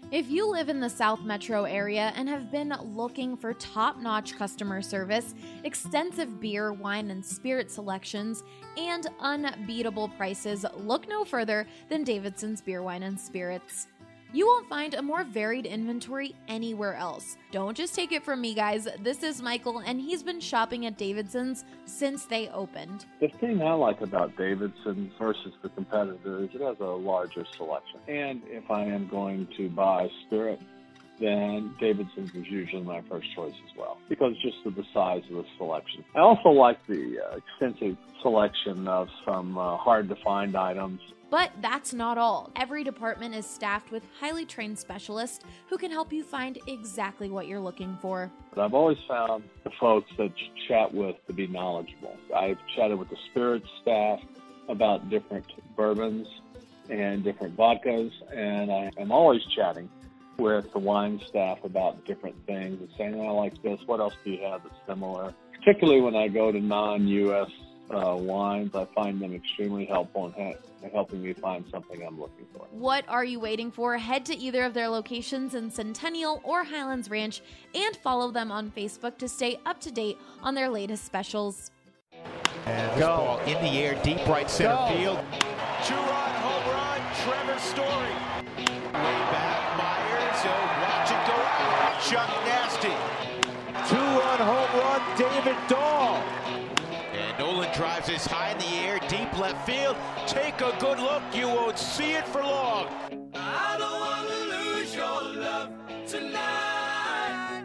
If you live in the South Metro area and have been looking for top-notch customer service, extensive beer, wine, and spirit selections, and unbeatable prices, look no further than Davidson's Beer, Wine, and Spirits. You won't find a more varied inventory anywhere else. Don't just take it from me, guys. This is Michael, and he's been shopping at Davidson's since they opened. The thing I like about Davidson's versus the competitor is it has a larger selection. And if I am going to buy spirit, then Davidson's is usually my first choice as well, because just of the size of the selection. I also like the extensive selection of some hard-to-find items. But that's not all. Every department is staffed with highly trained specialists who can help you find exactly what you're looking for. But I've always found the folks that you chat with to be knowledgeable. I've chatted with the spirits staff about different bourbons and different vodkas, and I am always chatting with the wine staff about different things and saying, I like this, what else do you have that's similar? Particularly when I go to non-U.S. wines, I find them extremely helpful in helping me find something I'm looking for. What are you waiting for? Head to either of their locations in Centennial or Highlands Ranch and follow them on Facebook to stay up to date on their latest specials. And this ball in the air, deep right center field. Two-run home run, Trevor Story. Way back, Myers, watch it go out. Chuck Nasty. Two-run home run, David Dahl. And Nolan drives this high in the air, deep left field. Take a good look, you won't see it for long. I don't want to lose your love tonight.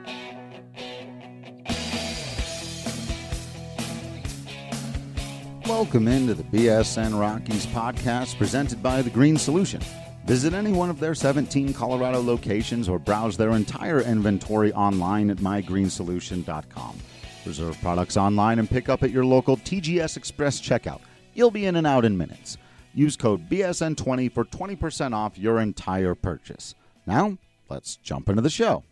Welcome into the BSN Rockies podcast presented by The Green Solution. Visit any one of their 17 Colorado locations or browse their entire inventory online at mygreensolution.com. Reserve products online and pick up at your local TGS Express checkout. You'll be in and out in minutes. Use code BSN20 for 20% off your entire purchase. Now, let's jump into the show.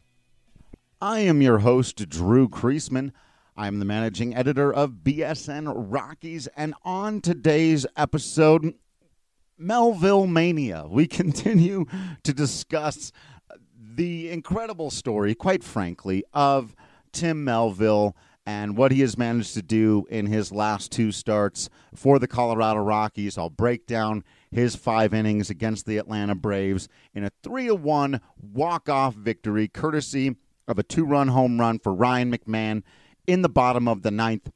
I am your host, Drew Kreisman. I am the managing editor of BSN Rockies, and on today's episode, Melville Mania. We continue to discuss the incredible story, quite frankly, of Tim Melville and what he has managed to do in his last two starts for the Colorado Rockies. I'll break down his 5 innings against the Atlanta Braves in a 3-1 walk-off victory, courtesy of a 2-run home run for Ryan McMahon in the bottom of the 9th.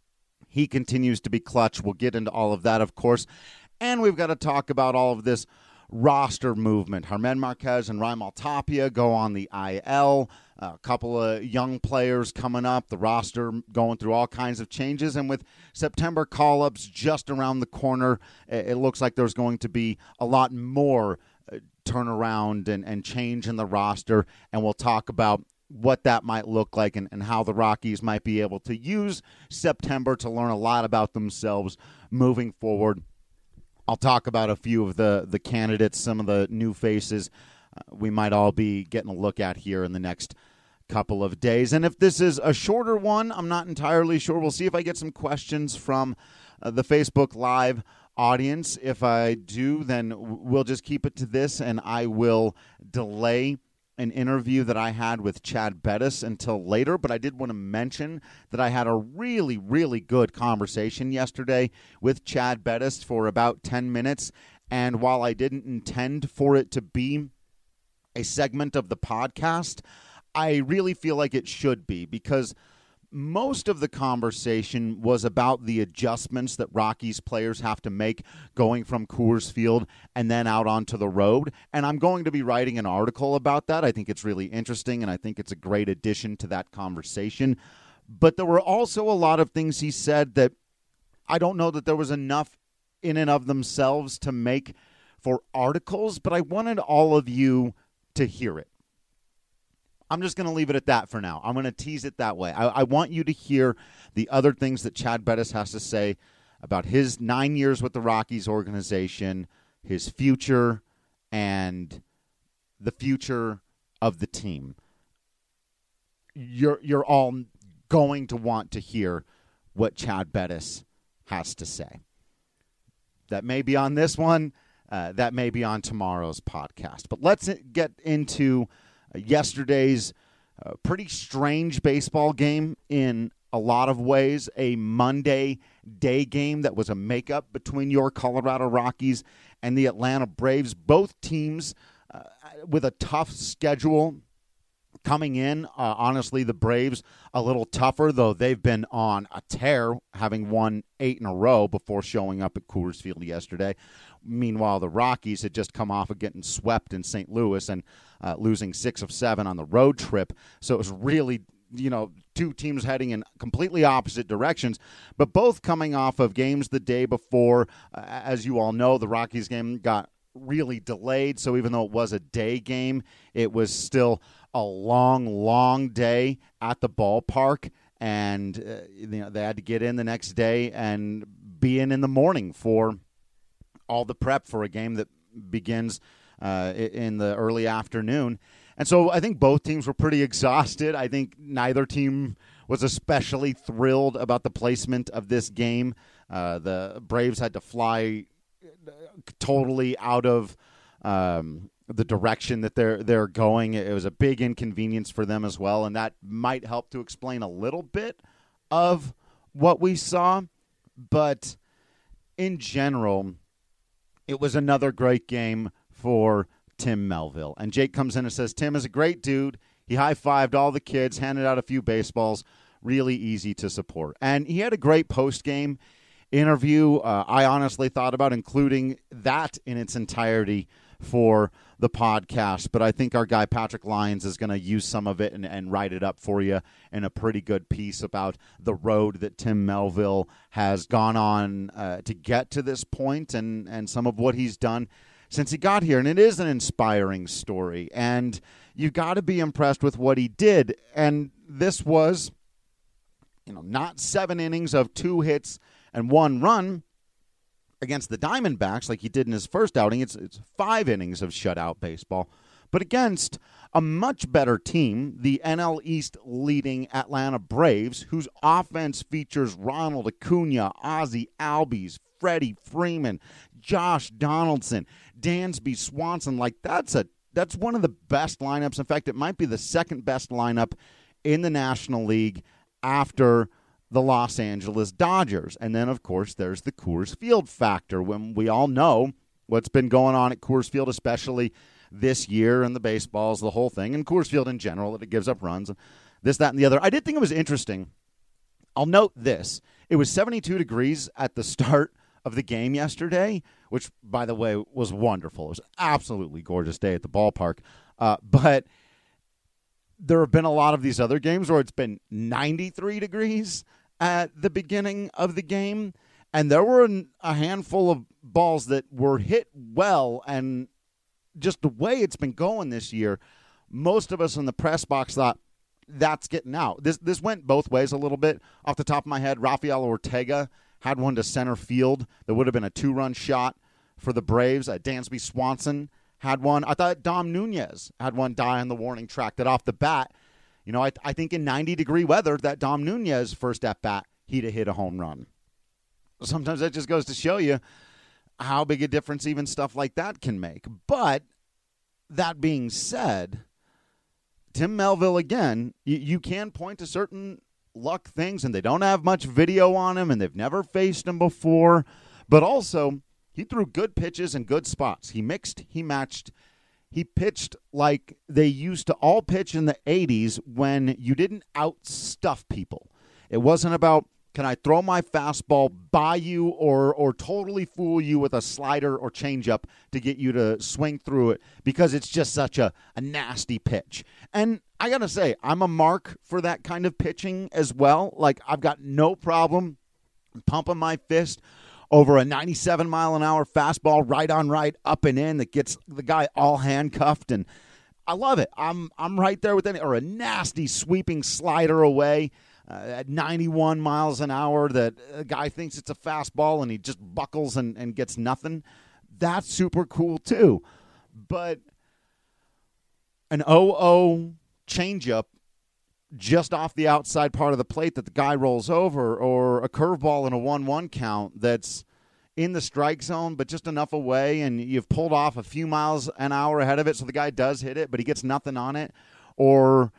He continues to be clutch. We'll get into all of that, of course. And we've got to talk about all of this roster movement. Germán Márquez and Raimel Tapia go on the IL. A couple of young players coming up. The roster going through all kinds of changes. And with September call-ups just around the corner, it looks like there's going to be a lot more turnaround and change in the roster. And we'll talk about what that might look like and how the Rockies might be able to use September to learn a lot about themselves moving forward. I'll talk about a few of the candidates, some of the new faces we might all be getting a look at here in the next couple of days. And if this is a shorter one, I'm not entirely sure. We'll see if I get some questions from the Facebook Live audience. If I do, then we'll just keep it to this, and I will delay an interview that I had with Chad Bettis until later, but I did want to mention that I had a really, really good conversation yesterday with Chad Bettis for about 10 minutes, and while I didn't intend for it to be a segment of the podcast, I really feel like it should be, because most of the conversation was about the adjustments that Rockies players have to make going from Coors Field and then out onto the road. And I'm going to be writing an article about that. I think it's really interesting, and I think it's a great addition to that conversation. But there were also a lot of things he said that I don't know that there was enough in and of themselves to make for articles, but I wanted all of you to hear it. I'm just going to leave it at that for now. I'm going to tease it that way. I want you to hear the other things that Chad Bettis has to say about his 9 years with the Rockies organization, his future, and the future of the team. You're all going to want to hear what Chad Bettis has to say. That may be on this one. that may be on tomorrow's podcast. But let's get into yesterday's pretty strange baseball game in a lot of ways, a Monday day game that was a makeup between your Colorado Rockies and the Atlanta Braves. Both teams with a tough schedule coming in. Honestly, the Braves a little tougher, though they've been on a tear, having won 8 in a row before showing up at Coors Field yesterday. Meanwhile, the Rockies had just come off of getting swept in St. Louis and losing 6 of 7 on the road trip. So it was really, two teams heading in completely opposite directions, but both coming off of games the day before. As you all know, the Rockies game got really delayed, so even though it was a day game, it was still a long day at the ballpark, and they had to get in the next day and be in the morning for all the prep for a game that begins in the early afternoon. And so I think both teams were pretty exhausted. I think neither team was especially thrilled about the placement of this game. The Braves had to fly totally out of the direction that they're going. It was a big inconvenience for them as well, and that might help to explain a little bit of what we saw. But in general, it was another great game for Tim Melville. And Jake comes in and says, Tim is a great dude. He high-fived all the kids, handed out a few baseballs, really easy to support. And he had a great post-game interview. I honestly thought about including that in its entirety for the podcast, but I think our guy Patrick Lyons is going to use some of it and write it up for you in a pretty good piece about the road that Tim Melville has gone on to get to this point and some of what he's done since he got here. And it is an inspiring story, and you've got to be impressed with what he did. And this was, not 7 innings of 2 hits and 1 run against the Diamondbacks like he did in his first outing. It's 5 innings of shutout baseball, but against a much better team, the NL East leading Atlanta Braves, whose offense features Ronald Acuna, Ozzie Albies, Freddie Freeman, Josh Donaldson, Dansby Swanson. Like that's one of the best lineups. In fact, it might be the second best lineup in the National League after the Los Angeles Dodgers. And then, of course, there's the Coors Field factor, when we all know what's been going on at Coors Field, especially this year, and the baseballs, the whole thing, and Coors Field in general, that it gives up runs, this, that, and the other. I did think it was interesting. I'll note this. It was 72 degrees at the start of the game yesterday, which, by the way, was wonderful. It was an absolutely gorgeous day at the ballpark. But there have been a lot of these other games where it's been 93 degrees at the beginning of the game, and there were a handful of balls that were hit well, and just the way it's been going this year, most of us in the press box thought that's getting out. This went both ways a little bit. Off the top of my head, Rafael Ortega had one to center field that would have been a 2-run shot for the Braves. Dansby Swanson had one. I thought Dom Nunez had one die on the warning track that off the bat, I think in 90-degree weather, that Dom Nunez first at-bat, he'd have hit a home run. Sometimes that just goes to show you how big a difference even stuff like that can make. But that being said, Tim Melville, again, you can point to certain luck things, and they don't have much video on him, and they've never faced him before. But also, he threw good pitches in good spots. He mixed, he matched. He pitched like they used to all pitch in the 80s when you didn't outstuff people. It wasn't about, can I throw my fastball by you or totally fool you with a slider or changeup to get you to swing through it because it's just such a nasty pitch. And I got to say, I'm a mark for that kind of pitching as well. Like, I've got no problem pumping my fist over a 97-mile-an-hour fastball right on right, up and in, that gets the guy all handcuffed, and I love it. I'm right there with any, or a nasty sweeping slider away at 91 miles an hour that a guy thinks it's a fastball and he just buckles and gets nothing. That's super cool too. But an 0-0 changeup just off the outside part of the plate that the guy rolls over, or a curveball in a 1-1 count that's in the strike zone, but just enough away, and you've pulled off a few miles an hour ahead of it, so the guy does hit it, but he gets nothing on it. Or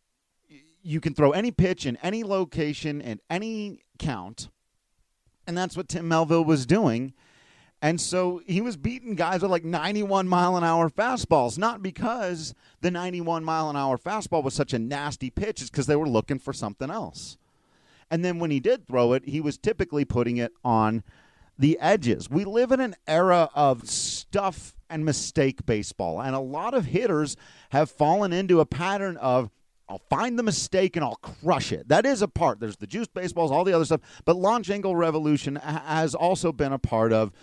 you can throw any pitch in any location at any count, and that's what Tim Melville was doing. And so he was beating guys with like 91-mile-an-hour fastballs, not because the 91-mile-an-hour fastball was such a nasty pitch. It's because they were looking for something else. And then when he did throw it, he was typically putting it on the edges. We live in an era of stuff and mistake baseball, and a lot of hitters have fallen into a pattern of, I'll find the mistake and I'll crush it. That is a part. There's the juice baseballs, all the other stuff, but launch angle revolution has also been a part of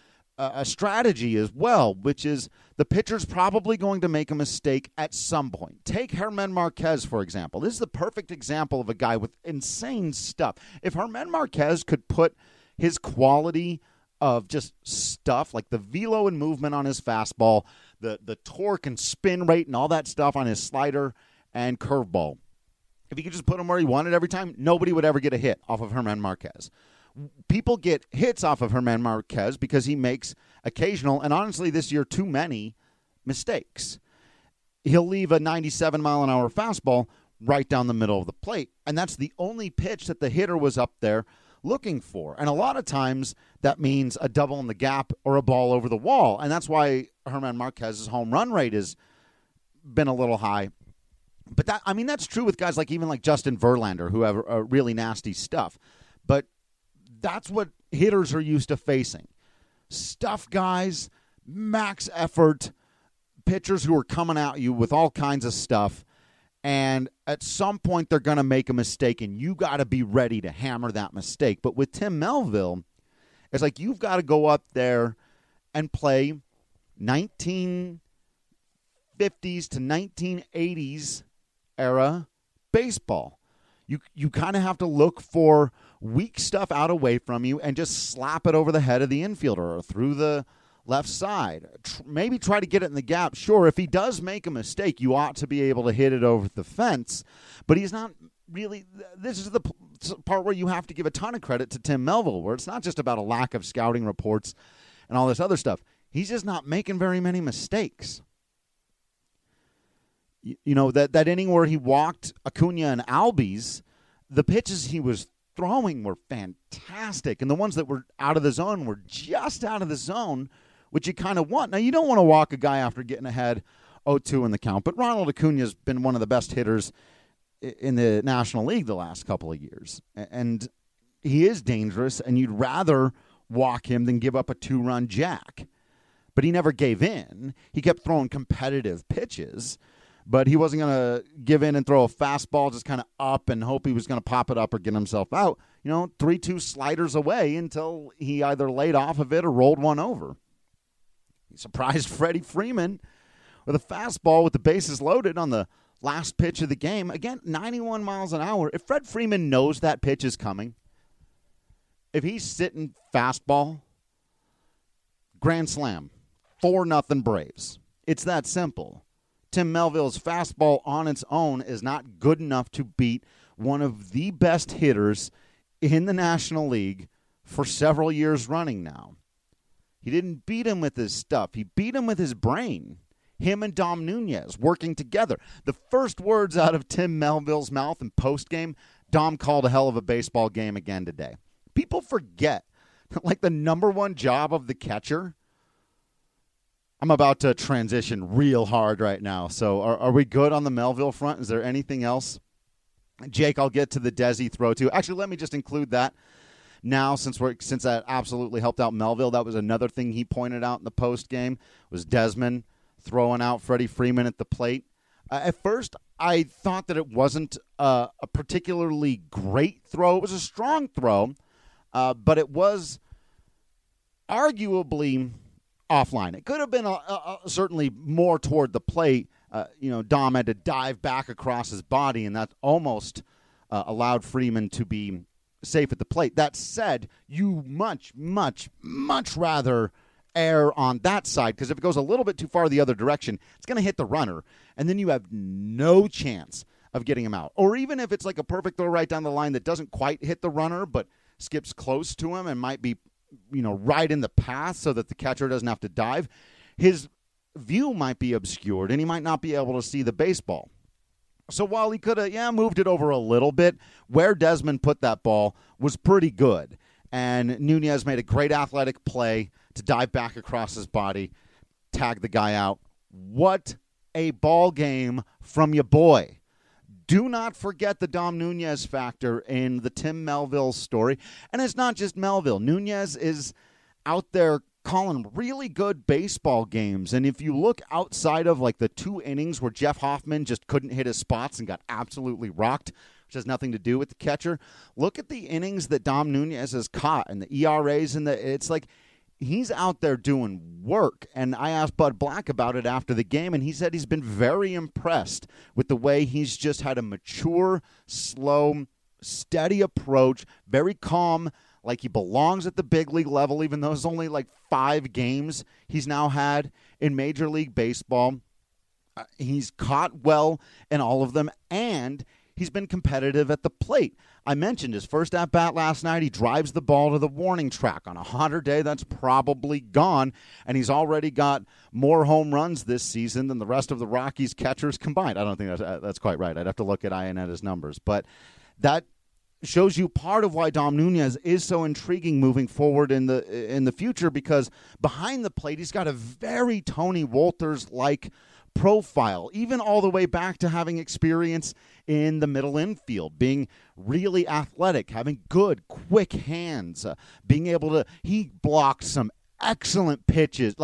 a strategy as well, which is the pitcher's probably going to make a mistake at some point. Take Germán Márquez, for example. This is the perfect example of a guy with insane stuff. If Germán Márquez could put his quality of just stuff, like the velo and movement on his fastball, the torque and spin rate and all that stuff on his slider and curveball, if he could just put them where he wanted every time, nobody would ever get a hit off of Germán Márquez. People get hits off of Germán Márquez because he makes occasional, and honestly this year too many, mistakes. He'll leave a 97-mile-an-hour fastball right down the middle of the plate, and that's the only pitch that the hitter was up there looking for. And a lot of times that means a double in the gap or a ball over the wall, and that's why Germán Márquez's home run rate has been a little high. But that's true with guys like even like Justin Verlander, who have really nasty stuff. But that's what hitters are used to facing. Stuff guys, max effort, pitchers who are coming at you with all kinds of stuff. And at some point, they're going to make a mistake, and you got to be ready to hammer that mistake. But with Tim Melville, it's like you've got to go up there and play 1950s to 1980s era baseball. You kind of have to look for weak stuff out away from you and just slap it over the head of the infielder or through the left side. Maybe try to get it in the gap. Sure, if he does make a mistake, you ought to be able to hit it over the fence. But he's not really – this is the part where you have to give a ton of credit to Tim Melville, where it's not just about a lack of scouting reports and all this other stuff. He's just not making very many mistakes. You know, that inning where he walked Acuna and Albies, the pitches he was throwing were fantastic. And the ones that were out of the zone were just out of the zone, which you kind of want. Now, you don't want to walk a guy after getting ahead 0-2 in the count, but Ronald Acuna's been one of the best hitters in the National League the last couple of years. And he is dangerous, and you'd rather walk him than give up a 2-run jack. But he never gave in. He kept throwing competitive pitches, but he wasn't going to give in and throw a fastball just kind of up and hope he was going to pop it up or get himself out. 3-2 sliders away until he either laid off of it or rolled one over. He surprised Freddie Freeman with a fastball with the bases loaded on the last pitch of the game. Again, 91 miles an hour. If Fred Freeman knows that pitch is coming, if he's sitting fastball, grand slam, 4-0 Braves. It's that simple. Tim Melville's fastball on its own is not good enough to beat one of the best hitters in the National League for several years running now. He didn't beat him with his stuff. He beat him with his brain. Him and Dom Nunez working together. The first words out of Tim Melville's mouth in postgame, Dom called a hell of a baseball game again today. People forget that, like, the number one job of the catcher. I'm about to transition real hard right now. So are we good on the Melville front? Is there anything else? Jake, I'll get to the Desi throw too. Actually, let me just include that now since that absolutely helped out Melville. That was another thing he pointed out in the post game was Desmond throwing out Freddie Freeman at the plate. At first, I thought that it wasn't a particularly great throw. It was a strong throw, but it was arguably offline. It could have been certainly more toward the plate. Dom had to dive back across his body, and that almost allowed Freeman to be safe at the plate. That said, you much, much, much rather err on that side, because if it goes a little bit too far the other direction, it's going to hit the runner, and then you have no chance of getting him out. Or even if it's like a perfect throw right down the line that doesn't quite hit the runner, but skips close to him and might be right in the path so that the catcher doesn't have to dive, his view might be obscured and he might not be able to see the baseball. So while he could have, moved it over a little bit, where Desmond put that ball was pretty good. And Nunez made a great athletic play to dive back across his body, tag the guy out. What a ball game from your boy. Do not forget the Dom Nunez factor in the Tim Melville story. And it's not just Melville. Nunez is out there calling really good baseball games. And if you look outside of like the 2 innings where Jeff Hoffman just couldn't hit his spots and got absolutely rocked, which has nothing to do with the catcher, look at the innings that Dom Nunez has caught and the ERAs, and it's like he's out there doing work. And I asked Bud Black about it after the game, and he said he's been very impressed with the way he's just had a mature, slow, steady approach, very calm, like he belongs at the big league level, even though it's only like 5 games he's now had in Major League Baseball. He's caught well in all of them, and he's been competitive at the plate. I mentioned his first at-bat last night. He drives the ball to the warning track. On a hotter day, that's probably gone, and he's already got more home runs this season than the rest of the Rockies catchers combined. I don't think that's quite right. I'd have to look at Ionetta's numbers, but that shows you part of why Dom Nunez is so intriguing moving forward in the future, because behind the plate, he's got a very Tony Wolters-like profile, even all the way back to having experience in the middle infield, being really athletic, having good, quick hands, being able to, he blocked some excellent pitches,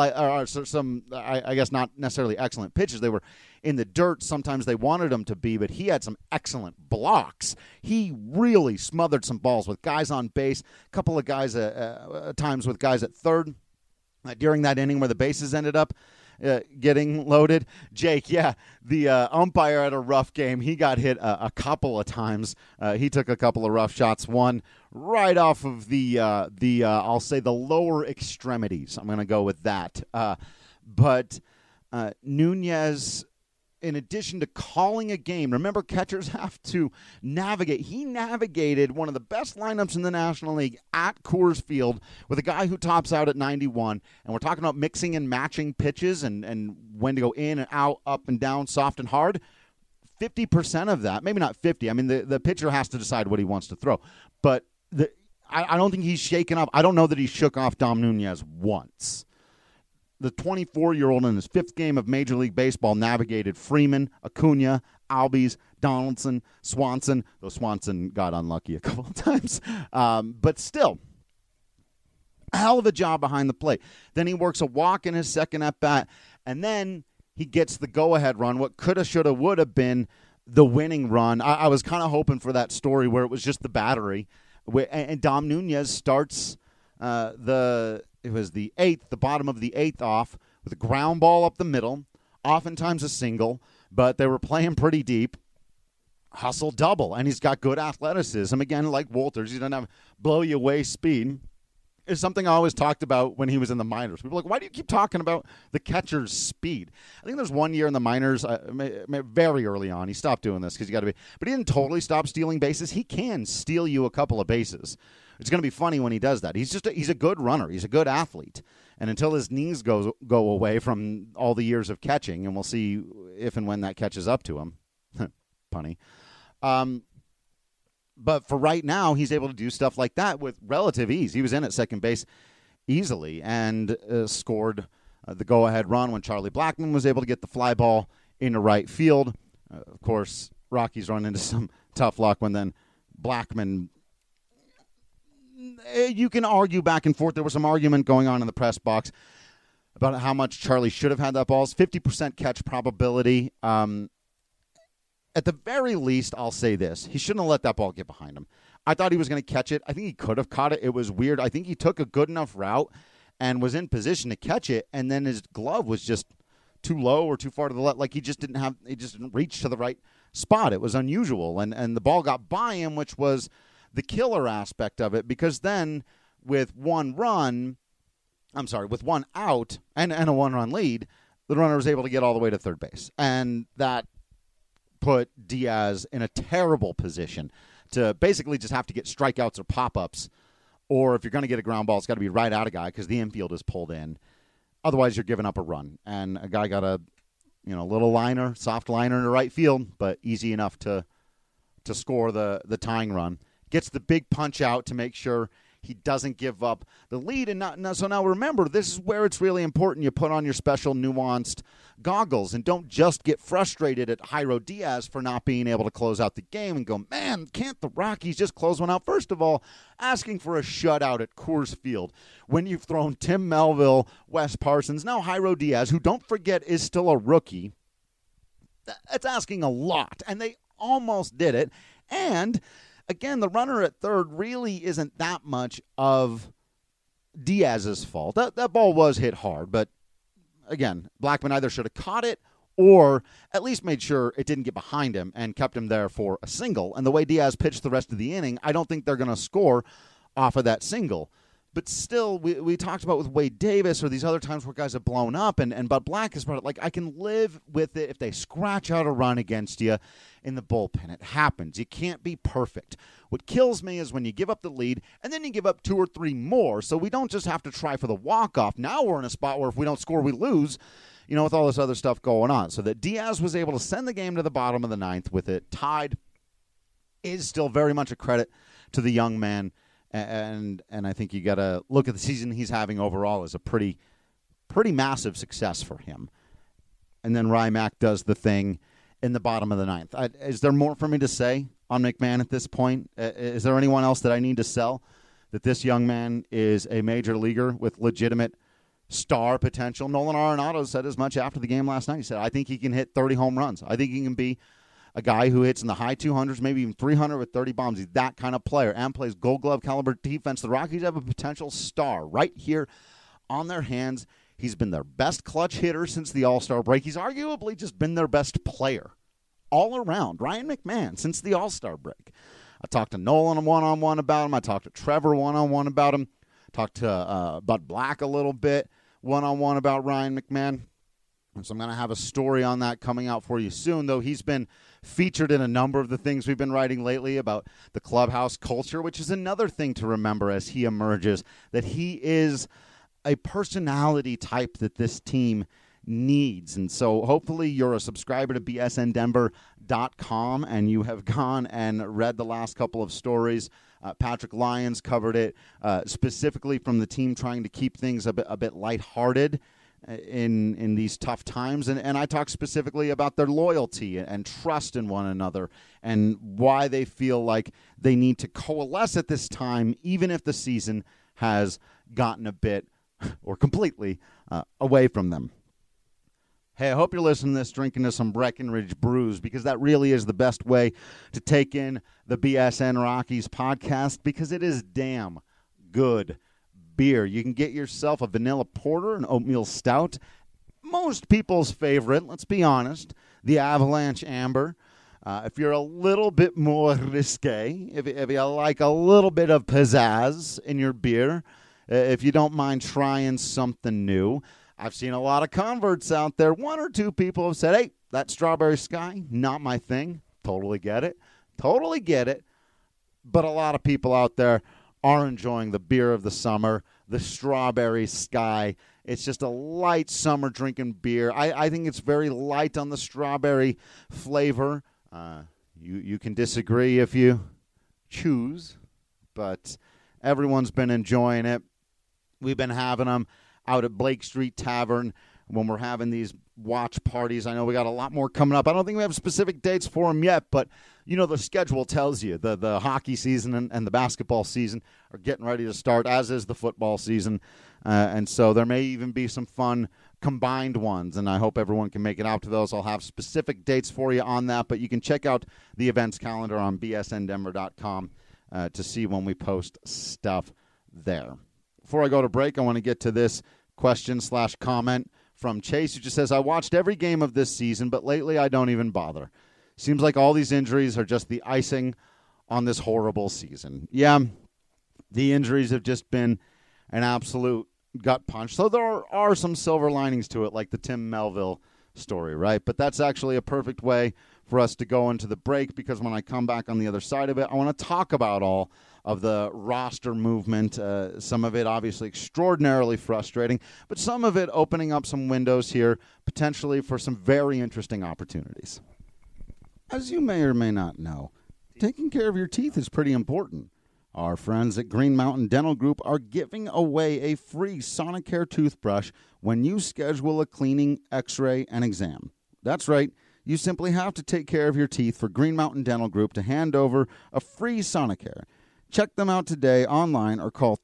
I guess not necessarily excellent pitches. They were in the dirt. Sometimes they wanted them to be, but he had some excellent blocks. He really smothered some balls with guys on base, a couple of guys times with guys at third during that inning where the bases ended up getting loaded. Jake, the umpire had a rough game. He got hit a couple of times. He took a couple of rough shots, one right off of the I'll say the lower extremities. I'm going to go with that. But Nunez, in addition to calling a game, remember, catchers have to navigate. He navigated one of the best lineups in the National League at Coors Field with a guy who tops out at 91. And we're talking about mixing and matching pitches and when to go in and out, up and down, soft and hard. 50% of that, maybe not 50. I mean, the pitcher has to decide what he wants to throw. But I don't think he's shaken up. I don't know that he shook off Dom Nunez once. The 24-year-old in his 5th game of Major League Baseball navigated Freeman, Acuna, Albies, Donaldson, Swanson, though Swanson got unlucky a couple of times. But still, a hell of a job behind the plate. Then he works a walk in his second at-bat, and then he gets the go-ahead run, what coulda, shoulda, woulda been the winning run. I was kind of hoping for that story where it was just the battery. And Dom Nunez starts it was the 8th, the bottom of the 8th off, with a ground ball up the middle, oftentimes a single, but they were playing pretty deep. Hustle double, and he's got good athleticism. Again, like Wolters, he doesn't have blow-you-away speed. It's something I always talked about when he was in the minors. People are like, why do you keep talking about the catcher's speed? I think there's one year in the minors, very early on, he stopped doing this because you got to be, but he didn't totally stop stealing bases. He can steal you a couple of bases. It's going to be funny when he does that. He's a good runner. He's a good athlete. And until his knees go away from all the years of catching, and we'll see if and when that catches up to him. Punny. But for right now, he's able to do stuff like that with relative ease. He was in at second base easily and scored the go-ahead run when Charlie Blackmon was able to get the fly ball into right field. Of course, Rockies run into some tough luck when then Blackmon, you can argue back and forth. There was some argument going on in the press box about how much Charlie should have had that ball. It's 50% catch probability. At the very least, I'll say this. He shouldn't have let that ball get behind him. I thought he was going to catch it. I think he could have caught it. It was weird. I think he took a good enough route and was in position to catch it, and then his glove was just too low or too far to the left. Like he just didn't reach to the right spot. It was unusual, and the ball got by him, which was the killer aspect of it, because then with one out and a one-run lead, the runner was able to get all the way to third base. And that put Diaz in a terrible position to basically just have to get strikeouts or pop-ups or if you're going to get a ground ball, it's got to be right at a guy because the infield is pulled in. Otherwise, you're giving up a run. And a guy got a little liner, soft liner in the right field, but easy enough to score the tying run. Gets the big punch out to make sure he doesn't give up the lead. So now remember, this is where it's really important you put on your special nuanced goggles and don't just get frustrated at Jairo Diaz for not being able to close out the game and go, man, can't the Rockies just close one out? First of all, asking for a shutout at Coors Field when you've thrown Tim Melville, Wes Parsons, now Jairo Diaz, who, don't forget, is still a rookie. That's asking a lot, and they almost did it. And again, the runner at third really isn't that much of Diaz's fault. That ball was hit hard, but again, Blackmon either should have caught it or at least made sure it didn't get behind him and kept him there for a single. And the way Diaz pitched the rest of the inning, I don't think they're going to score off of that single. But still, we talked about with Wade Davis or these other times where guys have blown up, and Bud Black has brought it. Like, I can live with it if they scratch out a run against you in the bullpen. It happens. You can't be perfect. What kills me is when you give up the lead, and then you give up 2 or 3 more, so we don't just have to try for the walk-off. Now we're in a spot where if we don't score, we lose, with all this other stuff going on. So that Diaz was able to send the game to the bottom of the 9th with it tied is still very much a credit to the young man. And I think you got to look at the season he's having overall as a pretty massive success for him. And then Rymack does the thing in the bottom of the 9th. Is there more for me to say on McMahon at this point? Is there anyone else that I need to sell that this young man is a major leaguer with legitimate star potential? Nolan Arenado said as much after the game last night. He said, I think he can hit 30 home runs. I think he can be a guy who hits in the high 200s, maybe even 300 with 30 bombs. He's that kind of player and plays Gold Glove caliber defense. The Rockies have a potential star right here on their hands. He's been their best clutch hitter since the All-Star break. He's arguably just been their best player all around. Ryan McMahon since the All-Star break. I talked to Nolan one-on-one about him. I talked to Trevor one-on-one about him. Talked to Bud Black a little bit one-on-one about Ryan McMahon. So I'm going to have a story on that coming out for you soon, though he's been featured in a number of the things we've been writing lately about the clubhouse culture, which is another thing to remember as he emerges, that he is a personality type that this team needs. And so hopefully you're a subscriber to bsndenver.com and you have gone and read the last couple of stories. Patrick Lyons covered it specifically from the team trying to keep things a bit lighthearted in these tough times, and I talk specifically about their loyalty and trust in one another and why they feel like they need to coalesce at this time, even if the season has gotten a bit or completely away from them. Hey, I hope you're listening to this drinking to some Breckenridge brews, because that really is the best way to take in the BSN Rockies podcast, because it is damn good beer. You can get yourself a vanilla porter, an oatmeal stout, most people's favorite, let's be honest, the Avalanche Amber. If you're a little bit more risque, if you like a little bit of pizzazz in your beer, if you don't mind trying something new, I've seen a lot of converts out there. 1 or 2 people have said, hey, that Strawberry Sky, not my thing. Totally get it. But a lot of people out there are enjoying the beer of the summer, the Strawberry Sky. It's just a light summer drinking beer. I think it's very light on the strawberry flavor. You can disagree if you choose, but everyone's been enjoying it. We've been having them out at Blake Street Tavern when we're having these watch parties. I know we got a lot more coming up. I don't think we have specific dates for them yet, but the schedule tells you the hockey season and the basketball season are getting ready to start, as is the football season. And so there may even be some fun combined ones, and I hope everyone can make it out to those. I'll have specific dates for you on that, but you can check out the events calendar on bsndenver.com to see when we post stuff there. Before I go to break, I want to get to this question/comment from Chase, who just says, I watched every game of this season, but lately I don't even bother. Seems like all these injuries are just the icing on this horrible season. Yeah, the injuries have just been an absolute gut punch. So there are some silver linings to it, like the Tim Melville story, right? But that's actually a perfect way for us to go into the break, because when I come back on the other side of it, I want to talk about all of the roster movement, some of it obviously extraordinarily frustrating, but some of it opening up some windows here potentially for some very interesting opportunities. As you may or may not know, taking care of your teeth is pretty important. Our friends at Green Mountain Dental Group are giving away a free Sonicare toothbrush when you schedule a cleaning, x-ray, and exam. That's right. You simply have to take care of your teeth for Green Mountain Dental Group to hand over a free Sonicare. Check them out today online or call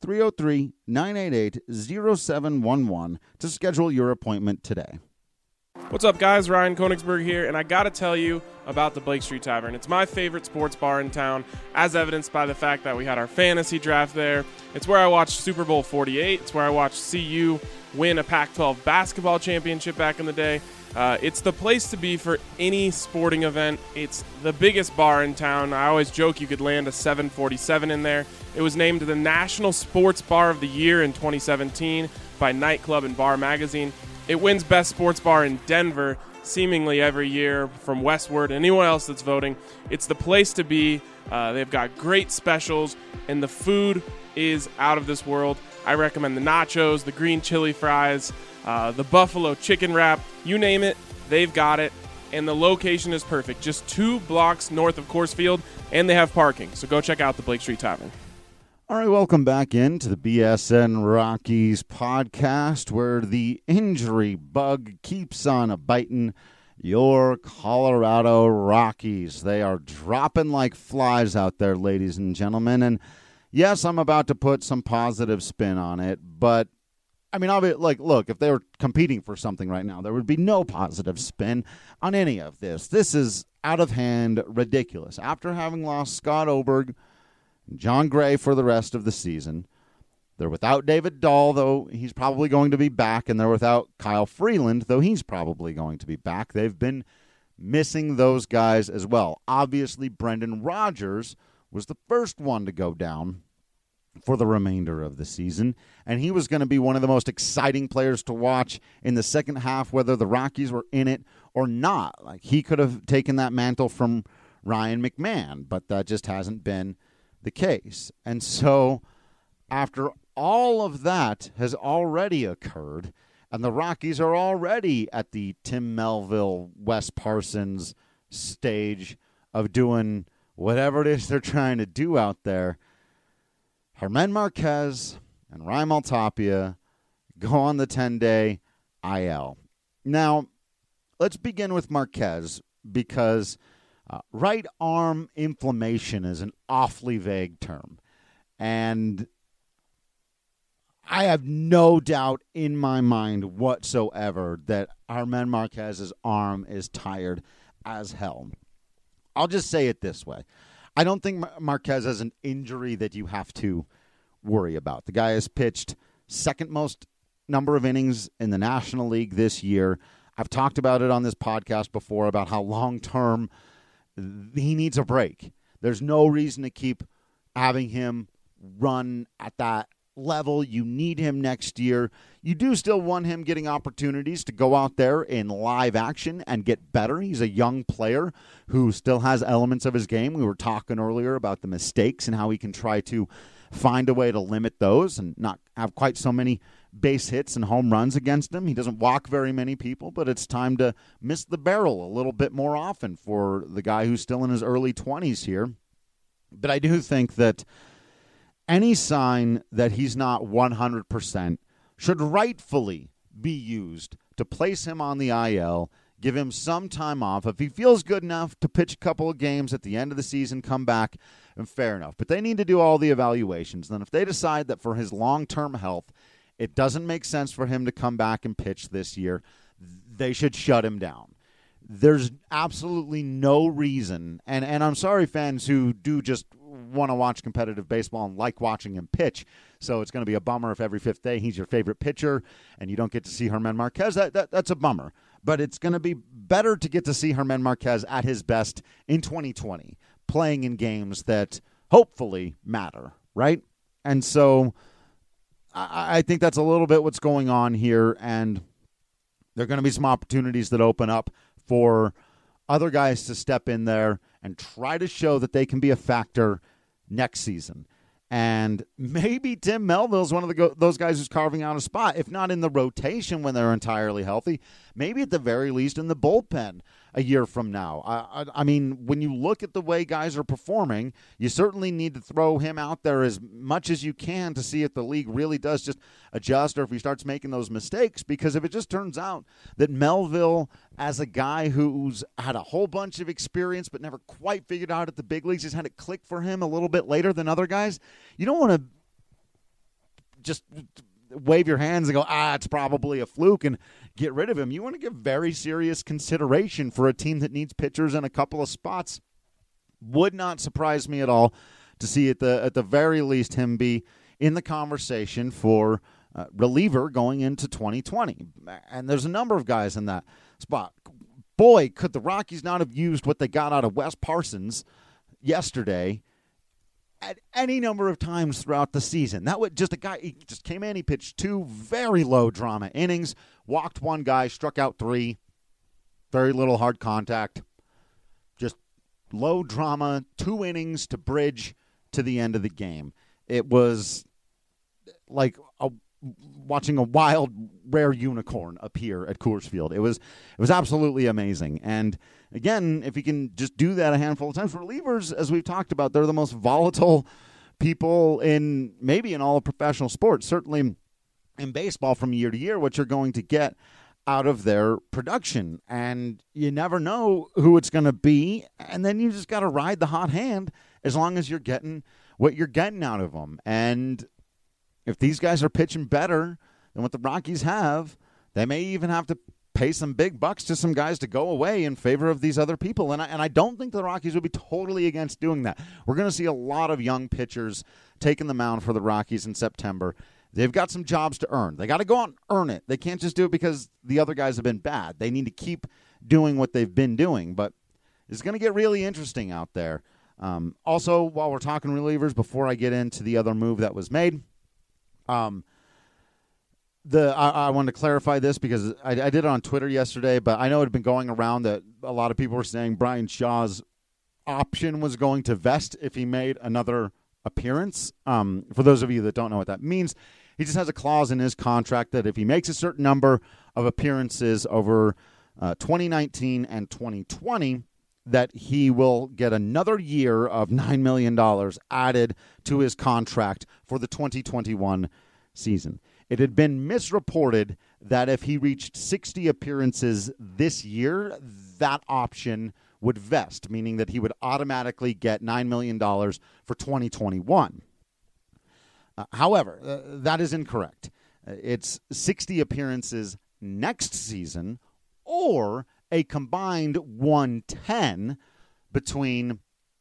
303-988-0711 to schedule your appointment today. What's up, guys? Ryan Koenigsberg here, and I got to tell you about the Blake Street Tavern. It's my favorite sports bar in town, as evidenced by the fact that we had our fantasy draft there. It's where I watched Super Bowl 48. It's where I watched CU win a Pac-12 basketball championship back in the day. It's the place to be for any sporting event. It's the biggest bar in town. I always joke you could land a 747 in there. It was named the National Sports Bar of the Year in 2017 by Nightclub and Bar Magazine. It wins Best Sports Bar in Denver seemingly every year from Westward and anyone else that's voting. It's the place to be. They've got great specials, and the food is out of this world. I recommend the nachos, the green chili fries, the buffalo chicken wrap, you name it, they've got it. And the location is perfect, just 2 blocks north of Coors Field, and they have parking. So go check out the Blake Street Tavern. All right, welcome back into the BSN Rockies podcast, where the injury bug keeps on biting your Colorado Rockies. They are dropping like flies out there, ladies and gentlemen. And yes, I'm about to put some positive spin on it, but I mean, look, if they were competing for something right now, there would be no positive spin on any of this. This is out of hand, ridiculous. After having lost Scott Oberg, John Gray for the rest of the season, they're without David Dahl, though he's probably going to be back, and they're without Kyle Freeland, though he's probably going to be back. They've been missing those guys as well. Obviously, Brendan Rodgers was the first one to go down for the remainder of the season, and he was going to be one of the most exciting players to watch in the second half, whether the Rockies were in it or not. Like, he could have taken that mantle from Ryan McMahon, but that just hasn't been the case. And so after all of that has already occurred, and the Rockies are already at the Tim Melville, Wes Parsons stage of doing whatever it is they're trying to do out there, Germán Marquez and Raimel Tapia go on the 10-day IL. Now, let's begin with Marquez, because right arm inflammation is an awfully vague term. And I have no doubt in my mind whatsoever that Germán Marquez's arm is tired as hell. I'll just say it this way. I don't think Marquez has an injury that you have to worry about. The guy has pitched second most number of innings in the National League this year. I've talked about it on this podcast before about how long-term he needs a break. There's no reason to keep having him run at that level. You need him next year. You do still want him getting opportunities to go out there in live action and get better. He's a young player who still has elements of his game. We were talking earlier about the mistakes and how he can try to find a way to limit those and not have quite so many base hits and home runs against him. He doesn't walk very many people, but it's time to miss the barrel a little bit more often for the guy who's still in his early 20s here. But I do think that any sign that he's not 100% should rightfully be used to place him on the IL, give him some time off. If he feels good enough to pitch a couple of games at the end of the season, come back, and fair enough. But they need to do all the evaluations. Then if they decide that for his long-term health, it doesn't make sense for him to come back and pitch this year, they should shut him down. There's absolutely no reason, and I'm sorry fans who do just want to watch competitive baseball and like watching him pitch, so it's going to be a bummer if every fifth day he's your favorite pitcher and you don't get to see Germán Marquez. That's a bummer. But it's going to be better to get to see Germán Marquez at his best in 2020, playing in games that hopefully matter, right? And so I think that's a little bit what's going on here, and there are going to be some opportunities that open up for other guys to step in there and try to show that they can be a factor next season. And maybe Tim Melville's one of those guys who's carving out a spot, if not in the rotation when they're entirely healthy, maybe at the very least in the bullpen a year from now. I mean, when you look at the way guys are performing, you certainly need to throw him out there as much as you can to see if the league really does just adjust or if he starts making those mistakes. Because if it just turns out that Melville, as a guy who's had a whole bunch of experience but never quite figured out at the big leagues, just had it click for him a little bit later than other guys, you don't want to just wave your hands and go, it's probably a fluke and get rid of him. You want to give very serious consideration for a team that needs pitchers in a couple of spots. Would not surprise me at all to see at the very least him be in the conversation for reliever going into 2020. And there's a number of guys in that spot. Boy, could the Rockies not have used what they got out of Wes Parsons yesterday at any number of times throughout the season. That was just a guy, he just came in, he pitched 2 very low drama innings, walked 1 guy, struck out 3, very little hard contact, just low drama, 2 innings to bridge to the end of the game. It was like watching a wild, rare unicorn appear at Coors Field. It was absolutely amazing. And again, if you can just do that a handful of times, relievers, as we've talked about, they're the most volatile people in all of professional sports. Certainly in baseball, from year to year, what you're going to get out of their production. And you never know who it's going to be. And then you just got to ride the hot hand as long as you're getting what you're getting out of them. And if these guys are pitching better than what the Rockies have, they may even have to pay some big bucks to some guys to go away in favor of these other people. And I don't think the Rockies would be totally against doing that. We're going to see a lot of young pitchers taking the mound for the Rockies in September. They've got some jobs to earn. They got to go out and earn it. They can't just do it because the other guys have been bad. They need to keep doing what they've been doing. But it's going to get really interesting out there. Also, while we're talking relievers, before I get into the other move that was made, I wanted to clarify this because I did it on Twitter yesterday, but I know it had been going around that a lot of people were saying Brian Shaw's option was going to vest if he made another appearance. For those of you that don't know what that means, he just has a clause in his contract that if he makes a certain number of appearances over 2019 and 2020, that he will get another year of $9 million added to his contract for the 2021 season. It had been misreported that if he reached 60 appearances this year, that option would vest, meaning that he would automatically get $9 million for 2021. However, that is incorrect. It's 60 appearances next season or a combined 110 between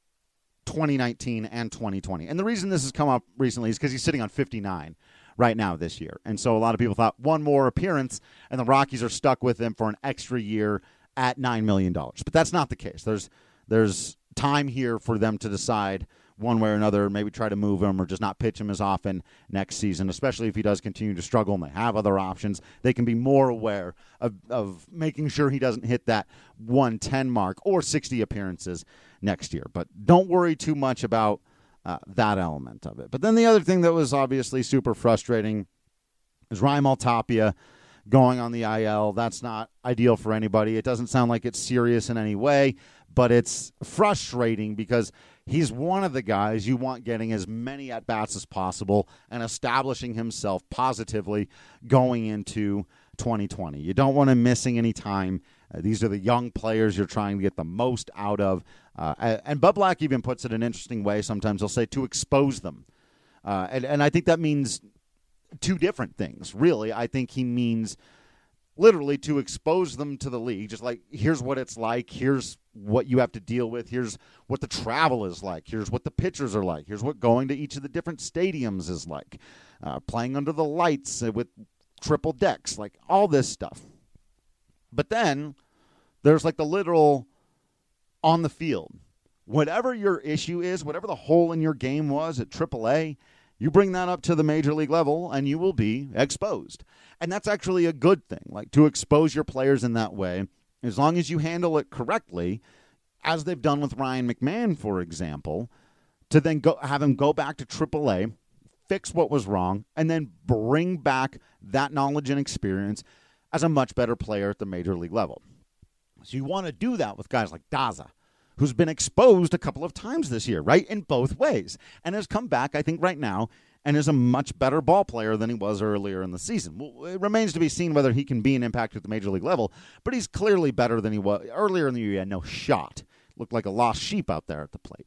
2019 and 2020. And the reason this has come up recently is because he's sitting on 59 right now this year. And so a lot of people thought one more appearance and the Rockies are stuck with him for an extra year at $9 million. But that's not the case. There's time here for them to decide one way or another, maybe try to move him or just not pitch him as often next season, especially if he does continue to struggle and they have other options. They can be more aware of making sure he doesn't hit that 110 mark or 60 appearances next year. But don't worry too much about that element of it. But then the other thing that was obviously super frustrating is Raimel Tapia going on the IL. That's not ideal for anybody. It doesn't sound like it's serious in any way, but it's frustrating because he's one of the guys you want getting as many at-bats as possible and establishing himself positively going into 2020. You don't want him missing any time. These are the young players you're trying to get the most out of. And Bud Black even puts it in an interesting way. Sometimes he'll say to expose them. And I think that means two different things, really. I think he means literally to expose them to the league, just like, here's what it's like, here's what you have to deal with, here's what the travel is like, here's what the pitchers are like, here's what going to each of the different stadiums is like, playing under the lights with triple decks, like all this stuff. But then there's like the literal on the field. Whatever your issue is, whatever the hole in your game was at AAA, you bring that up to the major league level and you will be exposed. And that's actually a good thing. Like, to expose your players in that way As long as you handle it correctly, as they've done with Ryan McMahon, for example, to then have him go back to AAA, fix what was wrong, and then bring back that knowledge and experience as a much better player at the major league level. So you want to do that with guys like Daza, who's been exposed a couple of times this year, right, in both ways, and has come back, I think, right now, and is a much better ball player than he was earlier in the season. Well, it remains to be seen whether he can be an impact at the major league level, but he's clearly better than he was. Earlier in the year, he had no shot. Looked like a lost sheep out there at the plate.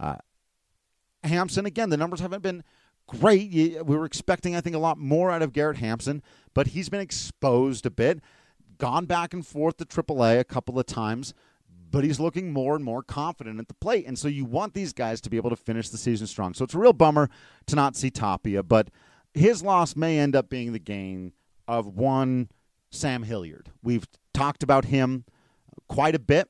Hampson, again, the numbers haven't been great. We were expecting, I think, a lot more out of Garrett Hampson, but he's been exposed a bit, gone back and forth to AAA a couple of times, but he's looking more and more confident at the plate. And so you want these guys to be able to finish the season strong. So it's a real bummer to not see Tapia, but his loss may end up being the gain of one Sam Hilliard. We've talked about him quite a bit,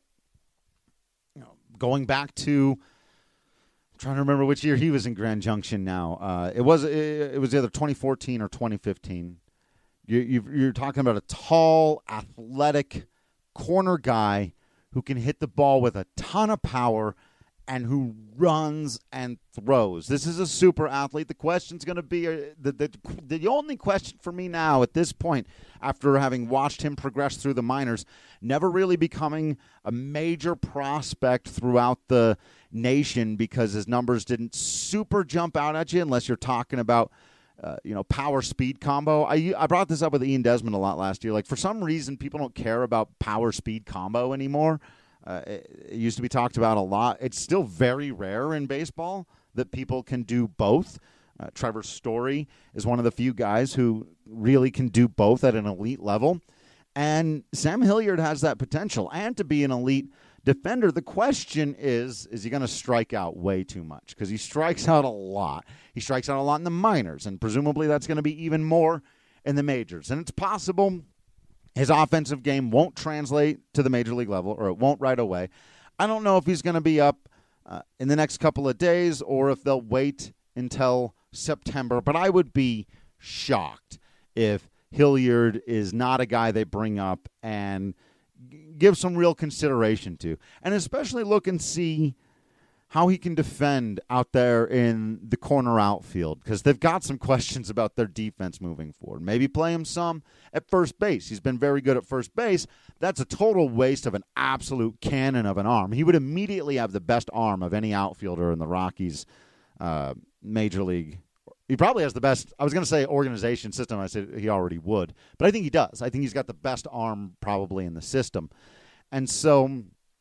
going back to, I'm trying to remember which year he was in Grand Junction now. It was either 2014 or 2015. You're talking about a tall, athletic corner guy who can hit the ball with a ton of power and who runs and throws. This is a super athlete. The question's going to be, the only question for me now at this point, after having watched him progress through the minors, never really becoming a major prospect throughout the nation because his numbers didn't super jump out at you unless you're talking about power speed combo. I brought this up with Ian Desmond a lot last year. Like, for some reason, people don't care about power speed combo anymore. It used to be talked about a lot. It's still very rare in baseball that people can do both. Trevor Story is one of the few guys who really can do both at an elite level. And Sam Hilliard has that potential. And to be an elite defender, the question is he going to strike out way too much? Because he strikes out a lot. He strikes out a lot in the minors, and presumably that's going to be even more in the majors. And it's possible his offensive game won't translate to the major league level, or it won't right away. I don't know if he's going to be up in the next couple of days or if they'll wait until September, but I would be shocked if Hilliard is not a guy they bring up and give some real consideration to, and especially look and see how he can defend out there in the corner outfield, because they've got some questions about their defense moving forward. Maybe play him some at first base. He's been very good at first base. That's a total waste of an absolute cannon of an arm. He would immediately have the best arm of any outfielder in the Rockies major league. He probably has the best, I was going to say organization system. I said he already would, but I think he does. I think he's got the best arm probably in the system. And so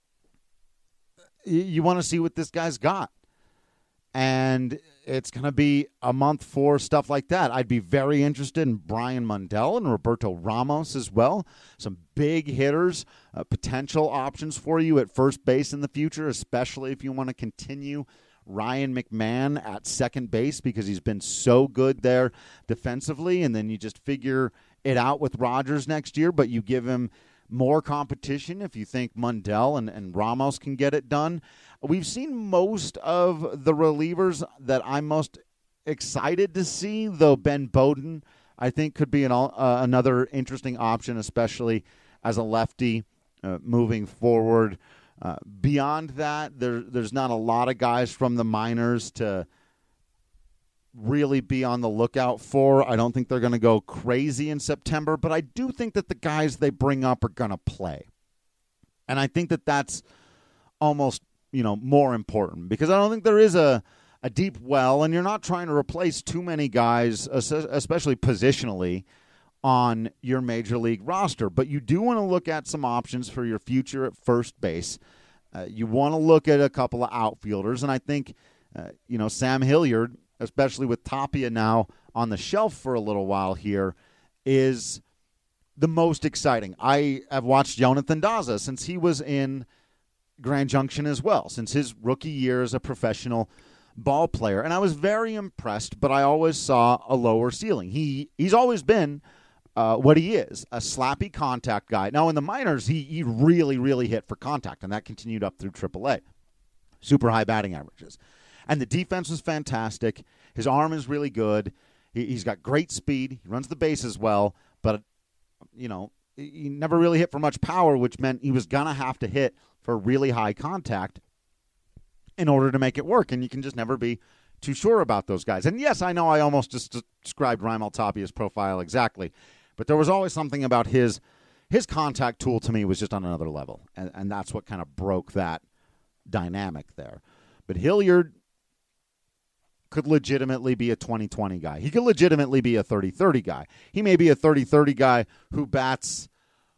you want to see what this guy's got. And it's going to be a month for stuff like that. I'd be very interested in Brian Mundell and Roberto Ramos as well. Some big hitters, potential options for you at first base in the future, especially if you want to continue Ryan McMahon at second base, because he's been so good there defensively, and then you just figure it out with Rogers next year, but you give him more competition if you think Mundell and Ramos can get it done. We've seen most of the relievers that I'm most excited to see, though Ben Bowden, I think, could be another interesting option, especially as a lefty moving forward. Beyond that, there's not a lot of guys from the minors to really be on the lookout for. I don't think they're going to go crazy in September, but I do think that the guys they bring up are going to play. And I think that that's almost, more important, because I don't think there is a deep well, and you're not trying to replace too many guys, especially positionally, on your major league roster. But you do want to look at some options for your future at first base. You want to look at a couple of outfielders, and I think, Sam Hilliard, especially with Tapia now on the shelf for a little while here, is the most exciting. I have watched Jonathan Daza since he was in Grand Junction as well, since his rookie year as a professional ball player. And I was very impressed, but I always saw a lower ceiling. He's always been what he is, a slappy contact guy. Now, in the minors, he really, really hit for contact, and that continued up through AAA. Super high batting averages. And the defense was fantastic. His arm is really good. He's got great speed. He runs the bases well. But, he never really hit for much power, which meant he was going to have to hit for really high contact in order to make it work. And you can just never be too sure about those guys. And yes, I know I almost just described Raimel Tapia's profile exactly, but there was always something about his contact tool to me was just on another level. And that's what kind of broke that dynamic there. But Hilliard could legitimately be a 20-20 guy. He could legitimately be a 30-30 guy. He may be a 30-30 guy who bats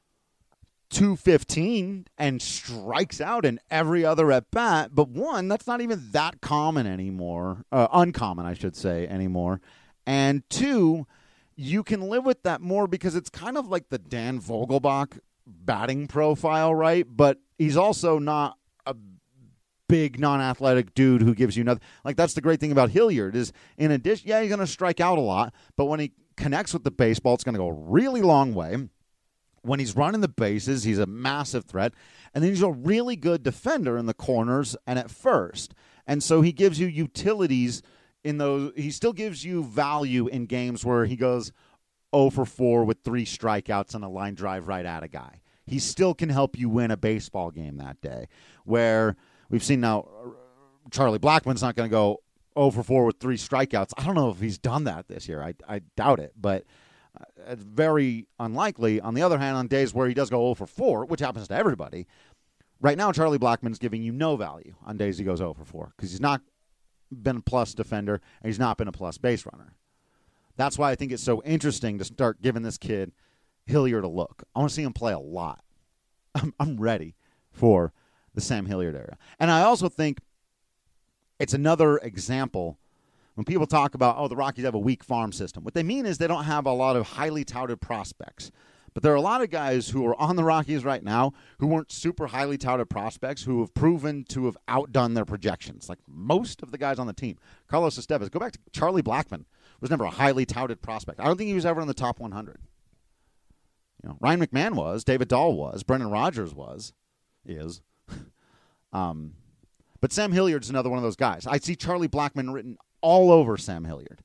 .215 and strikes out in every other at bat. But one, that's not even that common anymore. Uncommon, I should say, anymore. And two, you can live with that more because it's kind of like the Dan Vogelbach batting profile, right? But he's also not a big non-athletic dude who gives you nothing. Like, that's the great thing about Hilliard is, in addition, yeah, he's going to strike out a lot, but when he connects with the baseball, it's going to go a really long way. When he's running the bases, he's a massive threat, and then he's a really good defender in the corners and at first. And so he gives you utilities in those. He still gives you value in games where he goes 0 for 4 with 3 strikeouts and a line drive right at a guy. He still can help you win a baseball game that day, where we've seen now Charlie Blackmon's not going to go 0 for 4 with 3 strikeouts. I don't know if he's done that this year. I doubt it, but it's very unlikely. On the other hand, on days where he does go 0 for 4, which happens to everybody, right now Charlie Blackmon's giving you no value on days he goes 0 for 4 because he's not been a plus defender and he's not been a plus base runner. That's why I think it's so interesting to start giving this kid Hilliard a look. I want to see him play a lot. I'm ready for the Sam Hilliard era. And I also think it's another example when people talk about, oh, the Rockies have a weak farm system. What they mean is they don't have a lot of highly touted prospects. But there are a lot of guys who are on the Rockies right now who weren't super highly touted prospects who have proven to have outdone their projections. Like most of the guys on the team. Carlos Estevez, go back to Charlie Blackmon, was never a highly touted prospect. I don't think he was ever in the top 100. You know, Ryan McMahon was, David Dahl was, Brendan Rodgers is. But Sam Hilliard's another one of those guys. I see Charlie Blackmon written all over Sam Hilliard.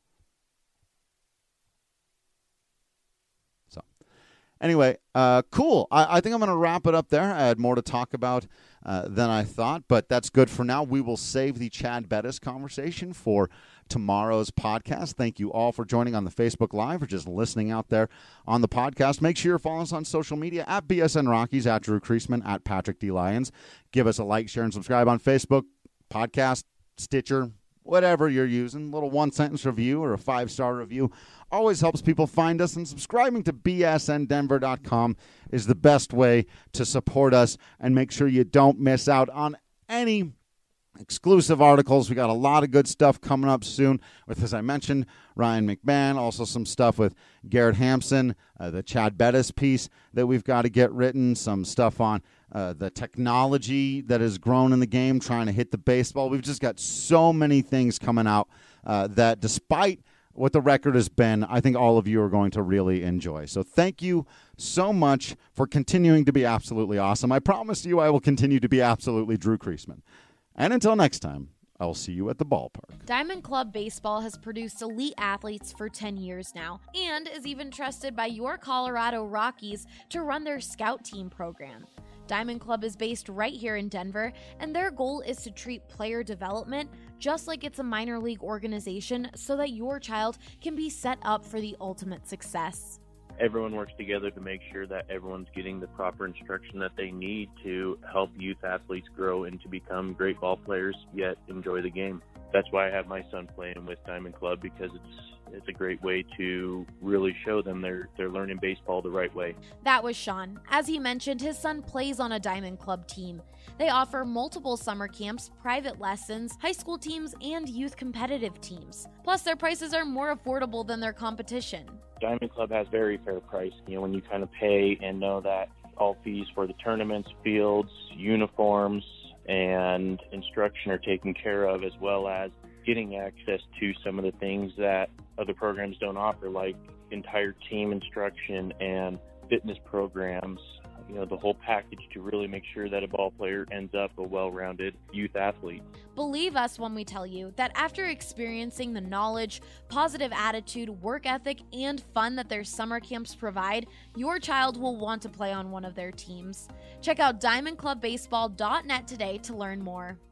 So, anyway, cool. I think I'm going to wrap it up there. I had more to talk about than I thought, but that's good for now. We will save the Chad Bettis conversation for tomorrow's podcast. Thank you all for joining on the Facebook Live or just listening out there on the podcast. Make sure you're following us on social media at BSN Rockies, at Drew Creasman, at Patrick D. Lyons. Give us a like, share, and subscribe on Facebook, podcast, Stitcher, whatever you're using. A little one-sentence review or a 5-star review always helps people find us, and subscribing to bsndenver.com is the best way to support us and make sure you don't miss out on any exclusive articles. We got a lot of good stuff coming up soon with, as I mentioned, Ryan McMahon, also some stuff with Garrett Hampson, the Chad Bettis piece that we've got to get written, some stuff on the technology that has grown in the game, trying to hit the baseball. We've just got so many things coming out that despite what the record has been, I think all of you are going to really enjoy. So thank you so much for continuing to be absolutely awesome. I promise you I will continue to be absolutely Drew Creasman. And until next time, I will see you at the ballpark. Diamond Club Baseball has produced elite athletes for 10 years now and is even trusted by your Colorado Rockies to run their scout team program. Diamond Club is based right here in Denver, and their goal is to treat player development just like it's a minor league organization so that your child can be set up for the ultimate success. Everyone works together to make sure that everyone's getting the proper instruction that they need to help youth athletes grow and to become great ball players, yet enjoy the game. That's why I have my son playing with Diamond Club, because it's a great way to really show them they're learning baseball the right way. That was Sean. As he mentioned, his son plays on a Diamond Club team. They offer multiple summer camps, private lessons, high school teams, and youth competitive teams. Plus, their prices are more affordable than their competition. Diamond Club has very fair price. You know, when you kind of pay and know that all fees for the tournaments, fields, uniforms, and instruction are taken care of, as well as getting access to some of the things that other programs don't offer, like entire team instruction and fitness programs, the whole package to really make sure that a ball player ends up a well-rounded youth athlete. Believe us when we tell you that after experiencing the knowledge, positive attitude, work ethic, and fun that their summer camps provide, your child will want to play on one of their teams. Check out diamondclubbaseball.net today to learn more.